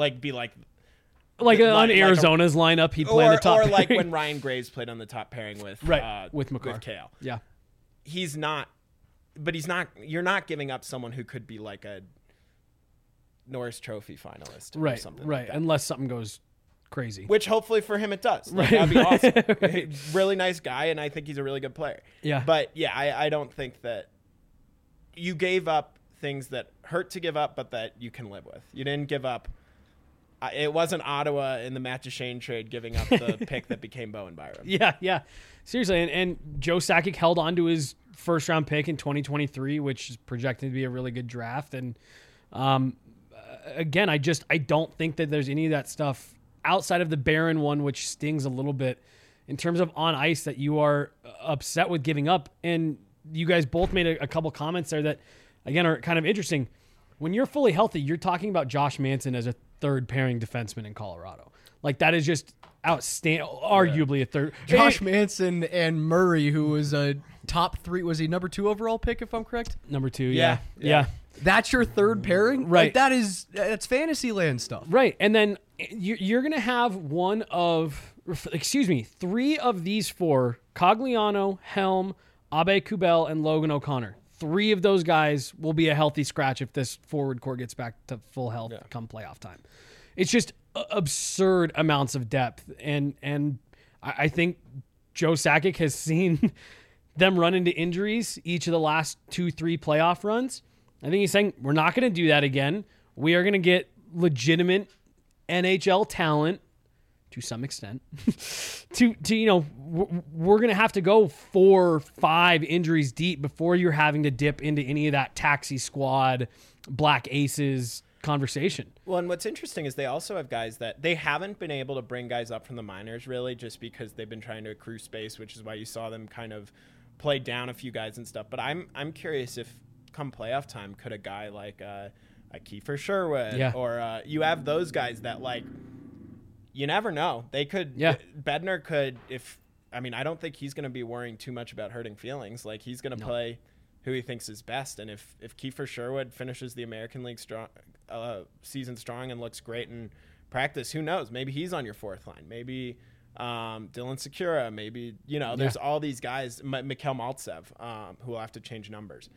on Arizona's lineup, he'd play on the top. Or like when Ryan Graves played on the top pairing with Makar. With Cale. Yeah, he's not. But he's not. You're not giving up someone who could be like a Norris Trophy finalist, or something like that. Unless something goes crazy. Which hopefully for him it does. That'd be awesome. Really nice guy, and I think he's a really good player. Yeah. But yeah, I don't think that you gave up things that hurt to give up, but that you can live with. You didn't give up. It wasn't Ottawa in the Matt Duchene trade giving up the pick that became Bowen Byram. Yeah. Seriously, and Joe Sakic held on to his first-round pick in 2023, which is projected to be a really good draft. And again, I don't think that there's any of that stuff outside of the Barron one, which stings a little bit in terms of on ice that you are upset with giving up. And you guys both made a couple comments there that, again, are kind of interesting. When you're fully healthy, you're talking about Josh Manson as a third pairing defenseman in Colorado. Like, that is just outstanding, arguably a third. Josh Manson and Murray, who was a top 3, was he number 2 overall pick, if I'm correct? Number 2, yeah. That's your third pairing? Right. Like that's fantasy land stuff. Right. And then you're going to have three of these four, Cogliano, Helm, Abe Kubel, and Logan O'Connor. Three of those guys will be a healthy scratch if this forward core gets back to full health come playoff time. It's just absurd amounts of depth. And I think Joe Sakic has seen them run into injuries each of the last 2-3 playoff runs. I think he's saying, we're not going to do that again. We are going to get legitimate NHL talent to some extent we're going to have to go 4-5 injuries deep before you're having to dip into any of that taxi squad, black aces conversation. Well, and what's interesting is they also have guys that they haven't been able to bring guys up from the minors really just because they've been trying to accrue space, which is why you saw them kind of play down a few guys and stuff. But I'm curious if come playoff time, could a guy like a Kiefer Sherwood or you have those guys that like, you never know. They could, Bednar could, I don't think he's going to be worrying too much about hurting feelings. Like he's going to play who he thinks is best. And if Kiefer Sherwood finishes the American League season strong and looks great in practice, who knows? Maybe he's on your fourth line. Maybe Dylan Sekura. Maybe, there's all these guys, Mikhail Maltsev, who will have to change numbers.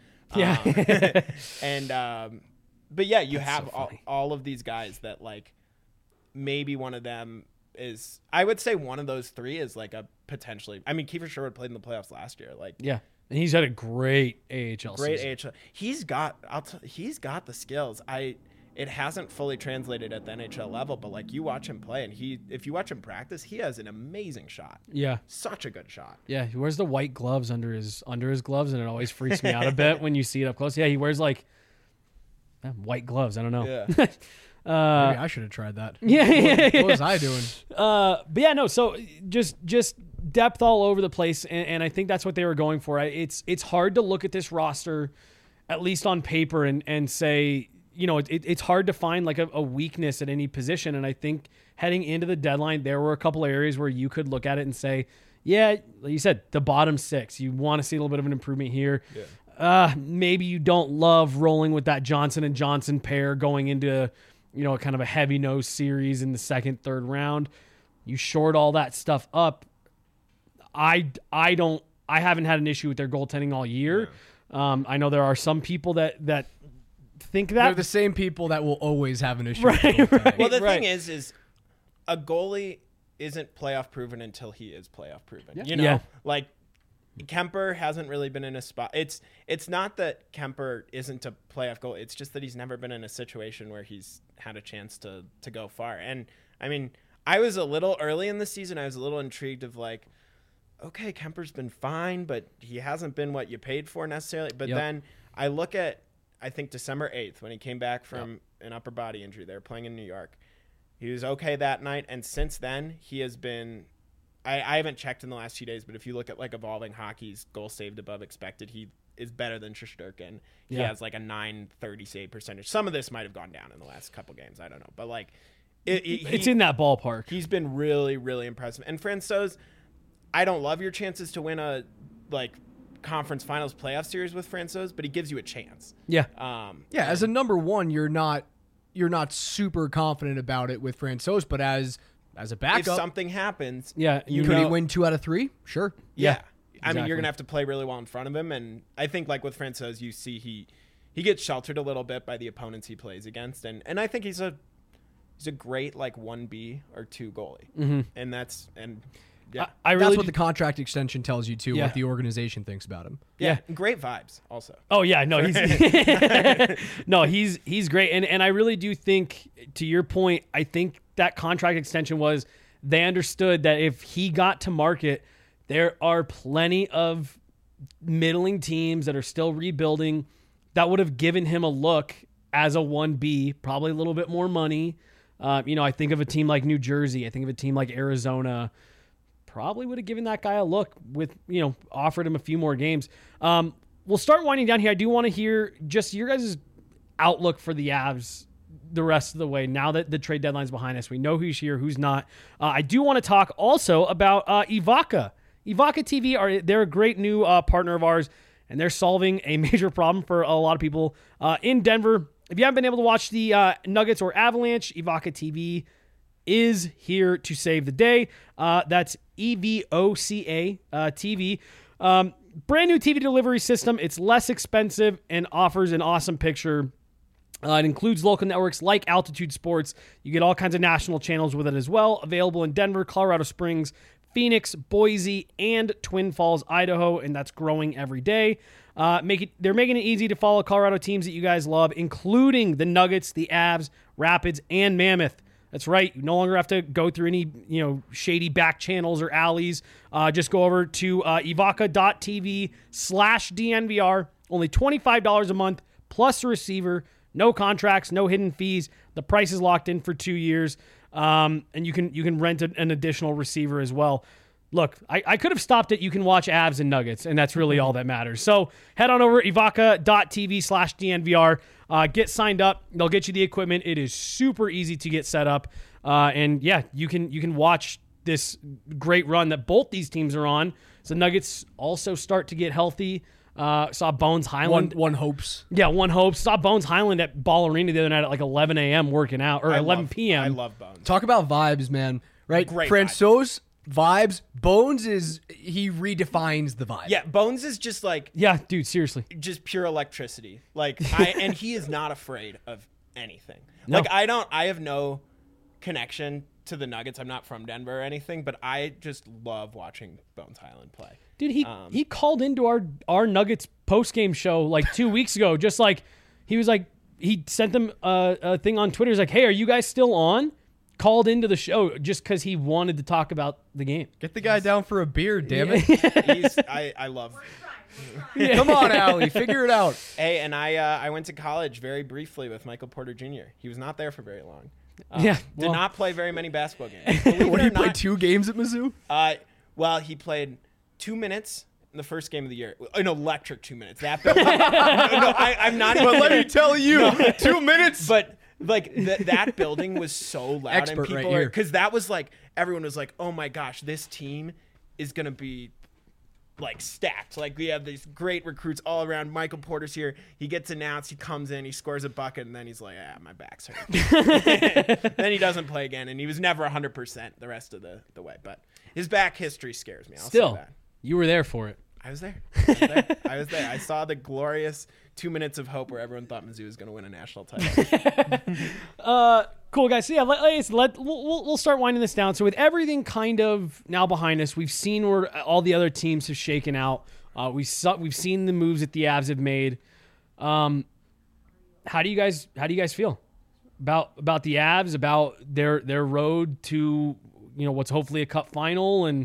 But yeah, you have all of these guys that like, maybe one of them is, I would say one of those three is like a potentially, Kiefer Sherwood played in the playoffs last year. Like, yeah. And he's had a great AHL season. AHL. He's got the skills. It hasn't fully translated at the NHL level, but like you watch him play and if you watch him practice, he has an amazing shot. Yeah. Such a good shot. Yeah. He wears the white gloves under his gloves, and it always freaks me out a bit when you see it up close. Yeah. He wears like white gloves. I don't know. Yeah. Maybe I should have tried that. Yeah. What was I doing? But yeah, no. So just depth all over the place, and I think that's what they were going for. It's hard to look at this roster, at least on paper, and say, it's hard to find like a weakness at any position. And I think heading into the deadline, there were a couple of areas where you could look at it and say, yeah, like you said, the bottom six, you want to see a little bit of an improvement here. Yeah. Maybe you don't love rolling with that Johnson and Johnson pair going into kind of a heavy-nosed series in the second, third round. You short all that stuff up. I haven't had an issue with their goaltending all year. Yeah. I know there are some people that think that. They're the same people that will always have an issue with goaltending. Right. Well, the thing is a goalie isn't playoff proven until he is playoff proven. Yeah. Like Kemper hasn't really been in a spot. It's not that Kemper isn't a playoff goal. It's just that he's never been in a situation where he's had a chance to go far. And I was a little early in the season. I was a little intrigued of like, okay, Kemper's been fine, but he hasn't been what you paid for necessarily. But then I look at, I think December 8th when he came back from an upper body injury. They were playing in New York. He was okay that night. And since then he has been, I haven't checked in the last few days, but if you look at like Evolving Hockey's goal saved above expected, he is better than Shesterkin. He has like a .930 save percentage. Some of this might have gone down in the last couple games. I don't know. But like it's in that ballpark. He's been really, really impressive. And Francouz, I don't love your chances to win a like conference finals playoff series with Francouz, but he gives you a chance. Yeah. As a number one, you're not super confident about it with Francouz, but as a backup, if something happens, could he win 2 out of 3? Sure. Yeah. Exactly. You're gonna have to play really well in front of him, and I think like with Francouz, you see he gets sheltered a little bit by the opponents he plays against, and I think he's a great like 1B or 2 goalie, and that's that's what the contract extension tells you too. What the organization thinks about him. Yeah, great vibes also. Oh yeah, no, he's great, and I really do think, to your point, I think that contract extension was they understood that if he got to market, there are plenty of middling teams that are still rebuilding that would have given him a look as a 1B, probably a little bit more money. I think of a team like New Jersey. I think of a team like Arizona. Probably would have given that guy a look with, offered him a few more games. We'll start winding down here. I do want to hear just your guys' outlook for the Avs the rest of the way now that the trade deadline's behind us. We know who's here, who's not. I do want to talk also about Evoca. Evoca TV, they're a great new partner of ours, and they're solving a major problem for a lot of people in Denver. If you haven't been able to watch the Nuggets or Avalanche, Evoca TV is here to save the day. That's EVOCA TV. Brand new TV delivery system. It's less expensive and offers an awesome picture. It includes local networks like Altitude Sports. You get all kinds of national channels with it as well. Available in Denver, Colorado Springs, Phoenix, Boise, and Twin Falls, Idaho, and that's growing every day. They're making it easy to follow Colorado teams that you guys love, including the Nuggets, the Avs, Rapids, and Mammoth. That's right. You no longer have to go through any, shady back channels or alleys. Just go over to evoca.tv/DNVR. Only $25 a month plus a receiver. No contracts, no hidden fees. The price is locked in for 2 years. And you can rent an additional receiver as well. Look, I could have stopped it. You can watch Avs and Nuggets, and that's really all that matters. So head on over evoca.tv/DNVR. Get signed up. They'll get you the equipment. It is super easy to get set up. And yeah, you can watch this great run that both these teams are on. So Nuggets also start to get healthy. Saw Bones Highland. One hopes. Yeah, one hopes. Saw Bones Highland at Ball Arena the other night at like 11 a.m. working out, or 11 p.m. I love Bones. Talk about vibes, man. Right? Great Francois vibes. Bones he redefines the vibe. Yeah, Bones is just like Yeah, dude, seriously. just pure electricity. Like and he is not afraid of anything. No. Like I have no connection to the Nuggets. I'm not from Denver or anything, but I just love watching Bones Highland play. Dude, he called into our Nuggets post-game show like 2 weeks ago. Just like he sent them a thing on Twitter. He's like, "Hey, are you guys still on?" Called into the show just because he wanted to talk about the game. Get the guy down for a beer, damn it. I love. Come on, Allie, figure it out. Hey, and I went to college very briefly with Michael Porter Jr. He was not there for very long. Did not play very many basketball games. What, he played 2 games at Mizzou? Well, he played 2 minutes in the first game of the year. An electric 2 minutes. That building. I'm not even. But let me tell you, 2 minutes. But like that building was so loud, Expert and people right here. because that was like everyone was like, "Oh my gosh, this team is gonna be like stacked. Like we have these great recruits all around. Michael Porter's here. He gets announced. He comes in. He scores a bucket, and then he's like, my back's hurt." Then he doesn't play again, and he was never 100% the rest of the way. But his back history scares me. I'll say that. You were there for it. I was there. I saw the glorious 2 minutes of hope where everyone thought Mizzou was going to win a national title. Cool, guys. So yeah, we'll start winding this down. So with everything kind of now behind us, we've seen where all the other teams have shaken out. We've seen the moves that the Avs have made. How do you guys feel about the Avs, about their road to what's hopefully a cup final, and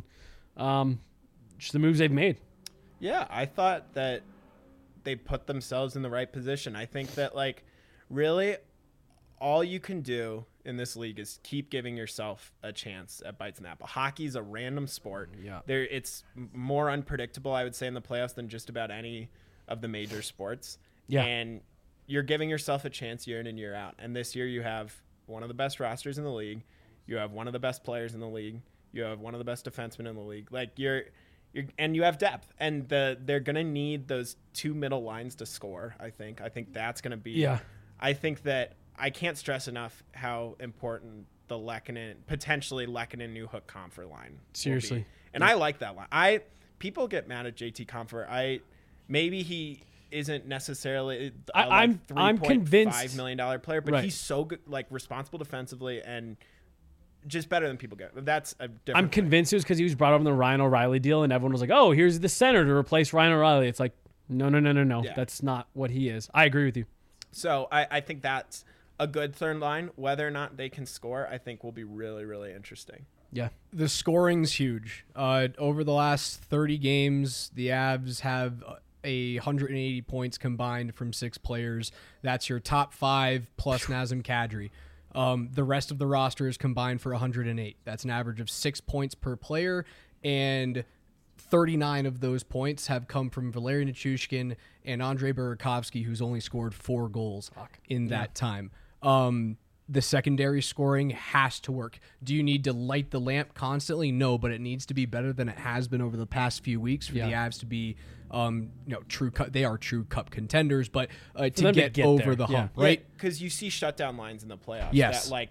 just the moves they've made? Yeah, I thought that they put themselves in the right position. I think that, like, really all you can do in this league is keep giving yourself a chance at bites and apple. Hockey's a random sport. Yeah. It's more unpredictable, I would say, in the playoffs than just about any of the major sports. Yeah. And you're giving yourself a chance year in and year out. And this year you have one of the best rosters in the league. You have one of the best players in the league. You have one of the best defensemen in the league. Like, and you have depth, and they're going to need those 2 middle lines to score, I think. I think that's going to be Yeah. I think that I can't stress enough how important the potentially Lehkonen Newhook Comfer line Seriously. will be. And I like that line. People get mad at JT Comfer. Maybe he isn't necessarily I'm convinced $3.5 million player, but he's so good, like responsible defensively and just better than people get. That's a different I'm convinced it was because he was brought up in the Ryan O'Reilly deal, and everyone was like, "Oh, here's the center to replace Ryan O'Reilly." It's like, no. Yeah. That's not what he is. I agree with you. So I think that's a good third line. Whether or not they can score, I think will be really, really interesting. Yeah. The scoring's huge. Over the last 30 games, the Avs have 180 points combined from 6 players. That's your top 5 plus Nazem Kadri. The rest of the roster is combined for 108. That's an average of 6 points per player, and 39 of those points have come from Valeri Nichushkin and Andrei Burakovsky, who's only scored 4 goals in that time. the secondary scoring has to work. Do you need to light the lamp constantly? No, but it needs to be better than it has been over the past few weeks for the Avs to be, true cup. They are true cup contenders, but to get over there. the hump, right? Because you see shutdown lines in the playoffs. Yes. That,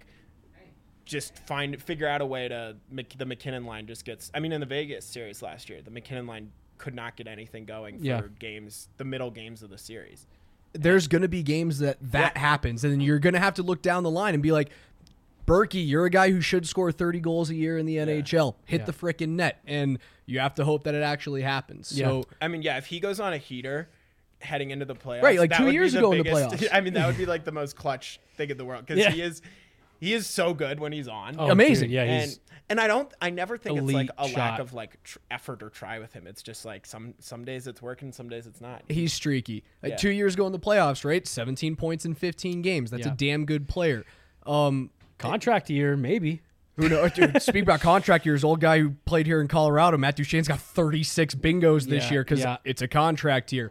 just figure out a way to the McKinnon line just gets. I mean, in the Vegas series last year, the McKinnon line could not get anything going for games, the middle games of the series. There's going to be games that happens, and then you're going to have to look down the line and be like, Berkey, you're a guy who should score 30 goals a year in the NHL. Hit the frickin' net, and you have to hope that it actually happens. So, I mean, if he goes on a heater heading into the playoffs, right, like that 2 would years be ago the in the biggest, playoffs. I mean, that would be like the most clutch thing in the world because he is so good when he's on. Oh, amazing. Dude, yeah, and I never think it's like a lack shot. of effort or try with him. It's just like some days it's working, some days it's not. He's streaky. 2 years ago in the playoffs, right? 17 points in 15 games. That's a damn good player. Contract year, maybe. Who knows? Dude, speak about contract years. Old guy who played here in Colorado, Matt Duchene's got 36 bingos this year because it's a contract year.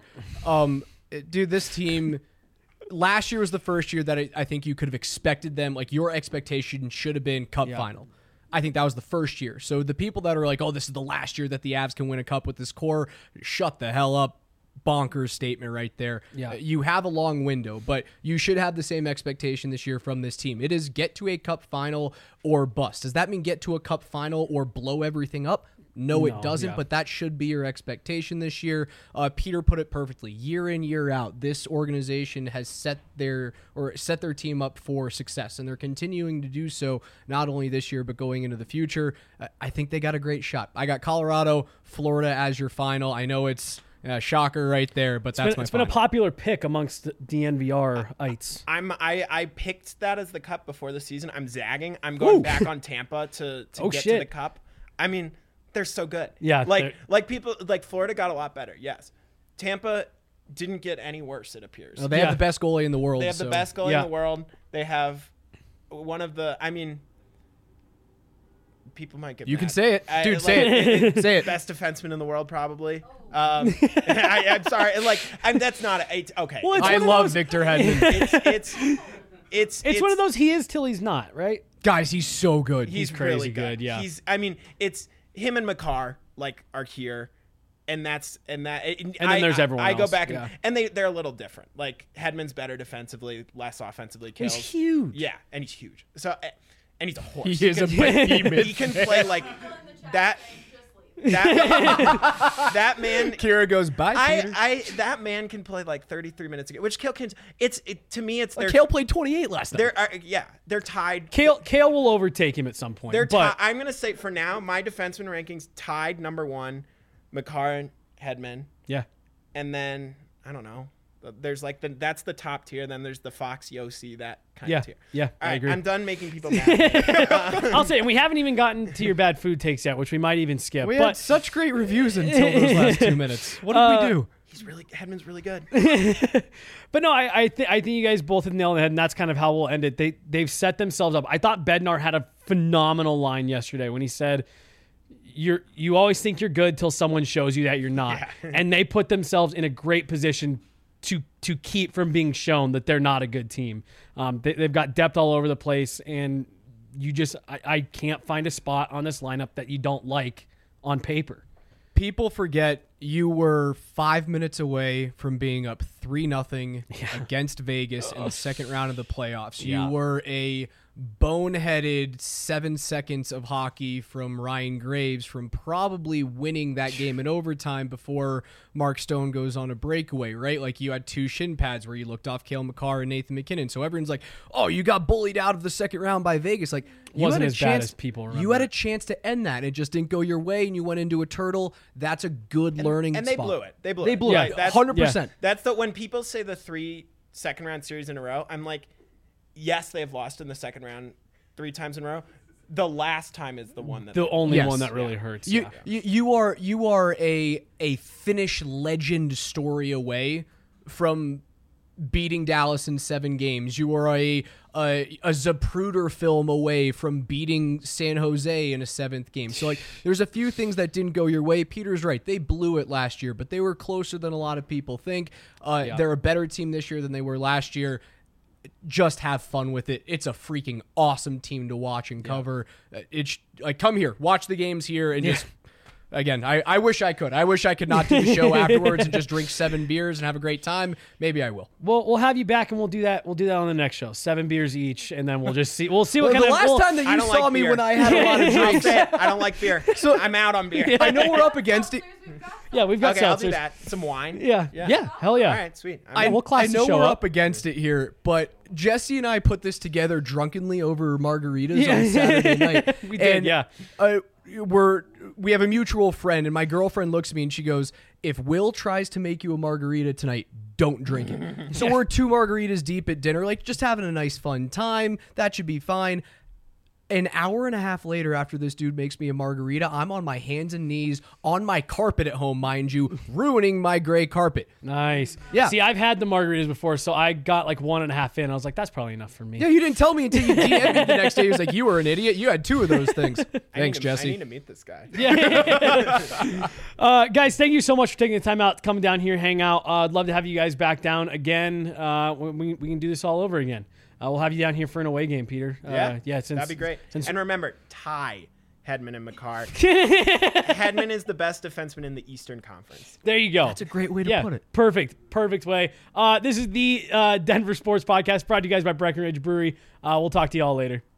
Dude, this team... Last year was the first year that I think you could have expected them. Like, your expectation should have been cup final. I think that was the first year. So the people that are like, oh, this is the last year that the Avs can win a cup with this core, shut the hell up. Bonkers statement right there. Yeah. You have a long window, but you should have the same expectation this year from this team. It is get to a cup final or bust. Does that mean get to a cup final or blow everything up? No, it doesn't, but that should be your expectation this year. Peter put it perfectly. Year in, year out, this organization has set their team up for success, and they're continuing to do so not only this year but going into the future. I think they got a great shot. I got Colorado, Florida as your final. I know it's a shocker right there, but It's been a popular pick amongst the DNVR-ites. I picked that as the cup before the season. I'm zagging. I'm going back on Tampa to get to the cup. I mean, they're so good. Yeah. Like people like Florida got a lot better. Yes. Tampa didn't get any worse, it appears. They have the best goalie in the world. They have the best goalie in the world. They have one of the people might get You mad. can say it. Dude, say it. Say it. Best defenseman in the world, probably. I'm sorry. That's not okay. Well, I love Victor Hedman. It's one of those he is till he's not, right? Guys, he's so good. He's crazy really good, yeah. It's him and Makar are here, and then there's everyone I go else. back and they're a little different. Like Hedman's better defensively, less offensively. He's huge. Yeah, and he's huge. So and he's a horse. He is a behemoth. He can play like that. That man. Kira goes by. Peter. That man can play like 33 minutes a game, which Kale can. To me, it's Kale played 28 last night. They're tied. Kale will overtake him at some point. I'm gonna say for now, my defenseman rankings tied number 1, Makar and Hedman. Yeah. And then I don't know. There's that's the top tier. Then there's the Fox Yossi, that kind of tier. Yeah, All right, I agree. I'm done making people mad. I'll say, and we haven't even gotten to your bad food takes yet, which we might even skip. We had such great reviews until those last 2 minutes. What did we do? Hedman's really good. But no, I think you guys both have nailed the head, and that's kind of how we'll end it. They've set themselves up. I thought Bednar had a phenomenal line yesterday when he said, "You always think you're good till someone shows you that you're not," and they put themselves in a great position to keep from being shown that they're not a good team. They've got depth all over the place, and I can't find a spot on this lineup that you don't like on paper. People forget you were 5 minutes away from being up 3-0 against Vegas in the second round of the playoffs. You were a boneheaded 7 seconds of hockey from Ryan Graves from probably winning that game in overtime before Mark Stone goes on a breakaway, right? Like, you had 2 shin pads where you looked off Cale Makar and Nathan McKinnon. So everyone's like, oh, you got bullied out of the second round by Vegas. Like, wasn't as bad as people remember. You had a chance to end that. It just didn't go your way, and you went into a turtle. That's a good learning and spot. They blew it. They blew it. 100%. That's when people say the 3 second round series in a row, I'm like, yes, they have lost in the second round 3 times in a row. The last time is the one that the only one that really hurts. You are a Finnish legend story away from beating Dallas in 7 games. You are a Zapruder film away from beating San Jose in a 7th game. So, like, there's a few things that didn't go your way. Peter's right. They blew it last year, but they were closer than a lot of people think. They're a better team this year than they were last year. just have fun with it. It's a freaking awesome team to watch and cover. It's like, come here, watch the games here, and just. Again, I wish I could. I wish I could not do the show afterwards and just drink 7 beers and have a great time. Maybe I will. Well, we'll have you back, and we'll do that. We'll do that on the next show. 7 beers each, and then we'll just see. We'll see what kind the of. last time that you saw me when I had a lot of drinks. I don't like beer. So I'm out on beer. I know we're up against it. Yeah, we've got Okay, I'll seltzers. do that. Some wine. Yeah. Hell yeah. All right, sweet. We'll class I the know show we're up. up against it here, but Jesse and I put this together drunkenly over margaritas on Saturday night. We did, yeah. We have a mutual friend, and my girlfriend looks at me and she goes, "If Will tries to make you a margarita tonight, don't drink it." So we're 2 margaritas deep at dinner, like just having a nice fun time. That should be fine. An hour and a half later, after this dude makes me a margarita, I'm on my hands and knees on my carpet at home, mind you, ruining my gray carpet. Nice. Yeah. See, I've had the margaritas before, so I got like 1.5 in. I was like, that's probably enough for me. Yeah, you didn't tell me until you DM'd me the next day. He was like, "You were an idiot. You had 2 of those things." Thanks, I Jesse. need to meet this guy. Guys, thank you so much for taking the time out to come down here, hang out. I'd love to have you guys back down again. We can do this all over again. We'll have you down here for an away game, Peter. That'd be great. And remember, tie Hedman and Makar. Hedman is the best defenseman in the Eastern Conference. There you go. That's a great way to put it. Perfect way. This is the Denver Sports Podcast brought to you guys by Breckenridge Brewery. We'll talk to you all later.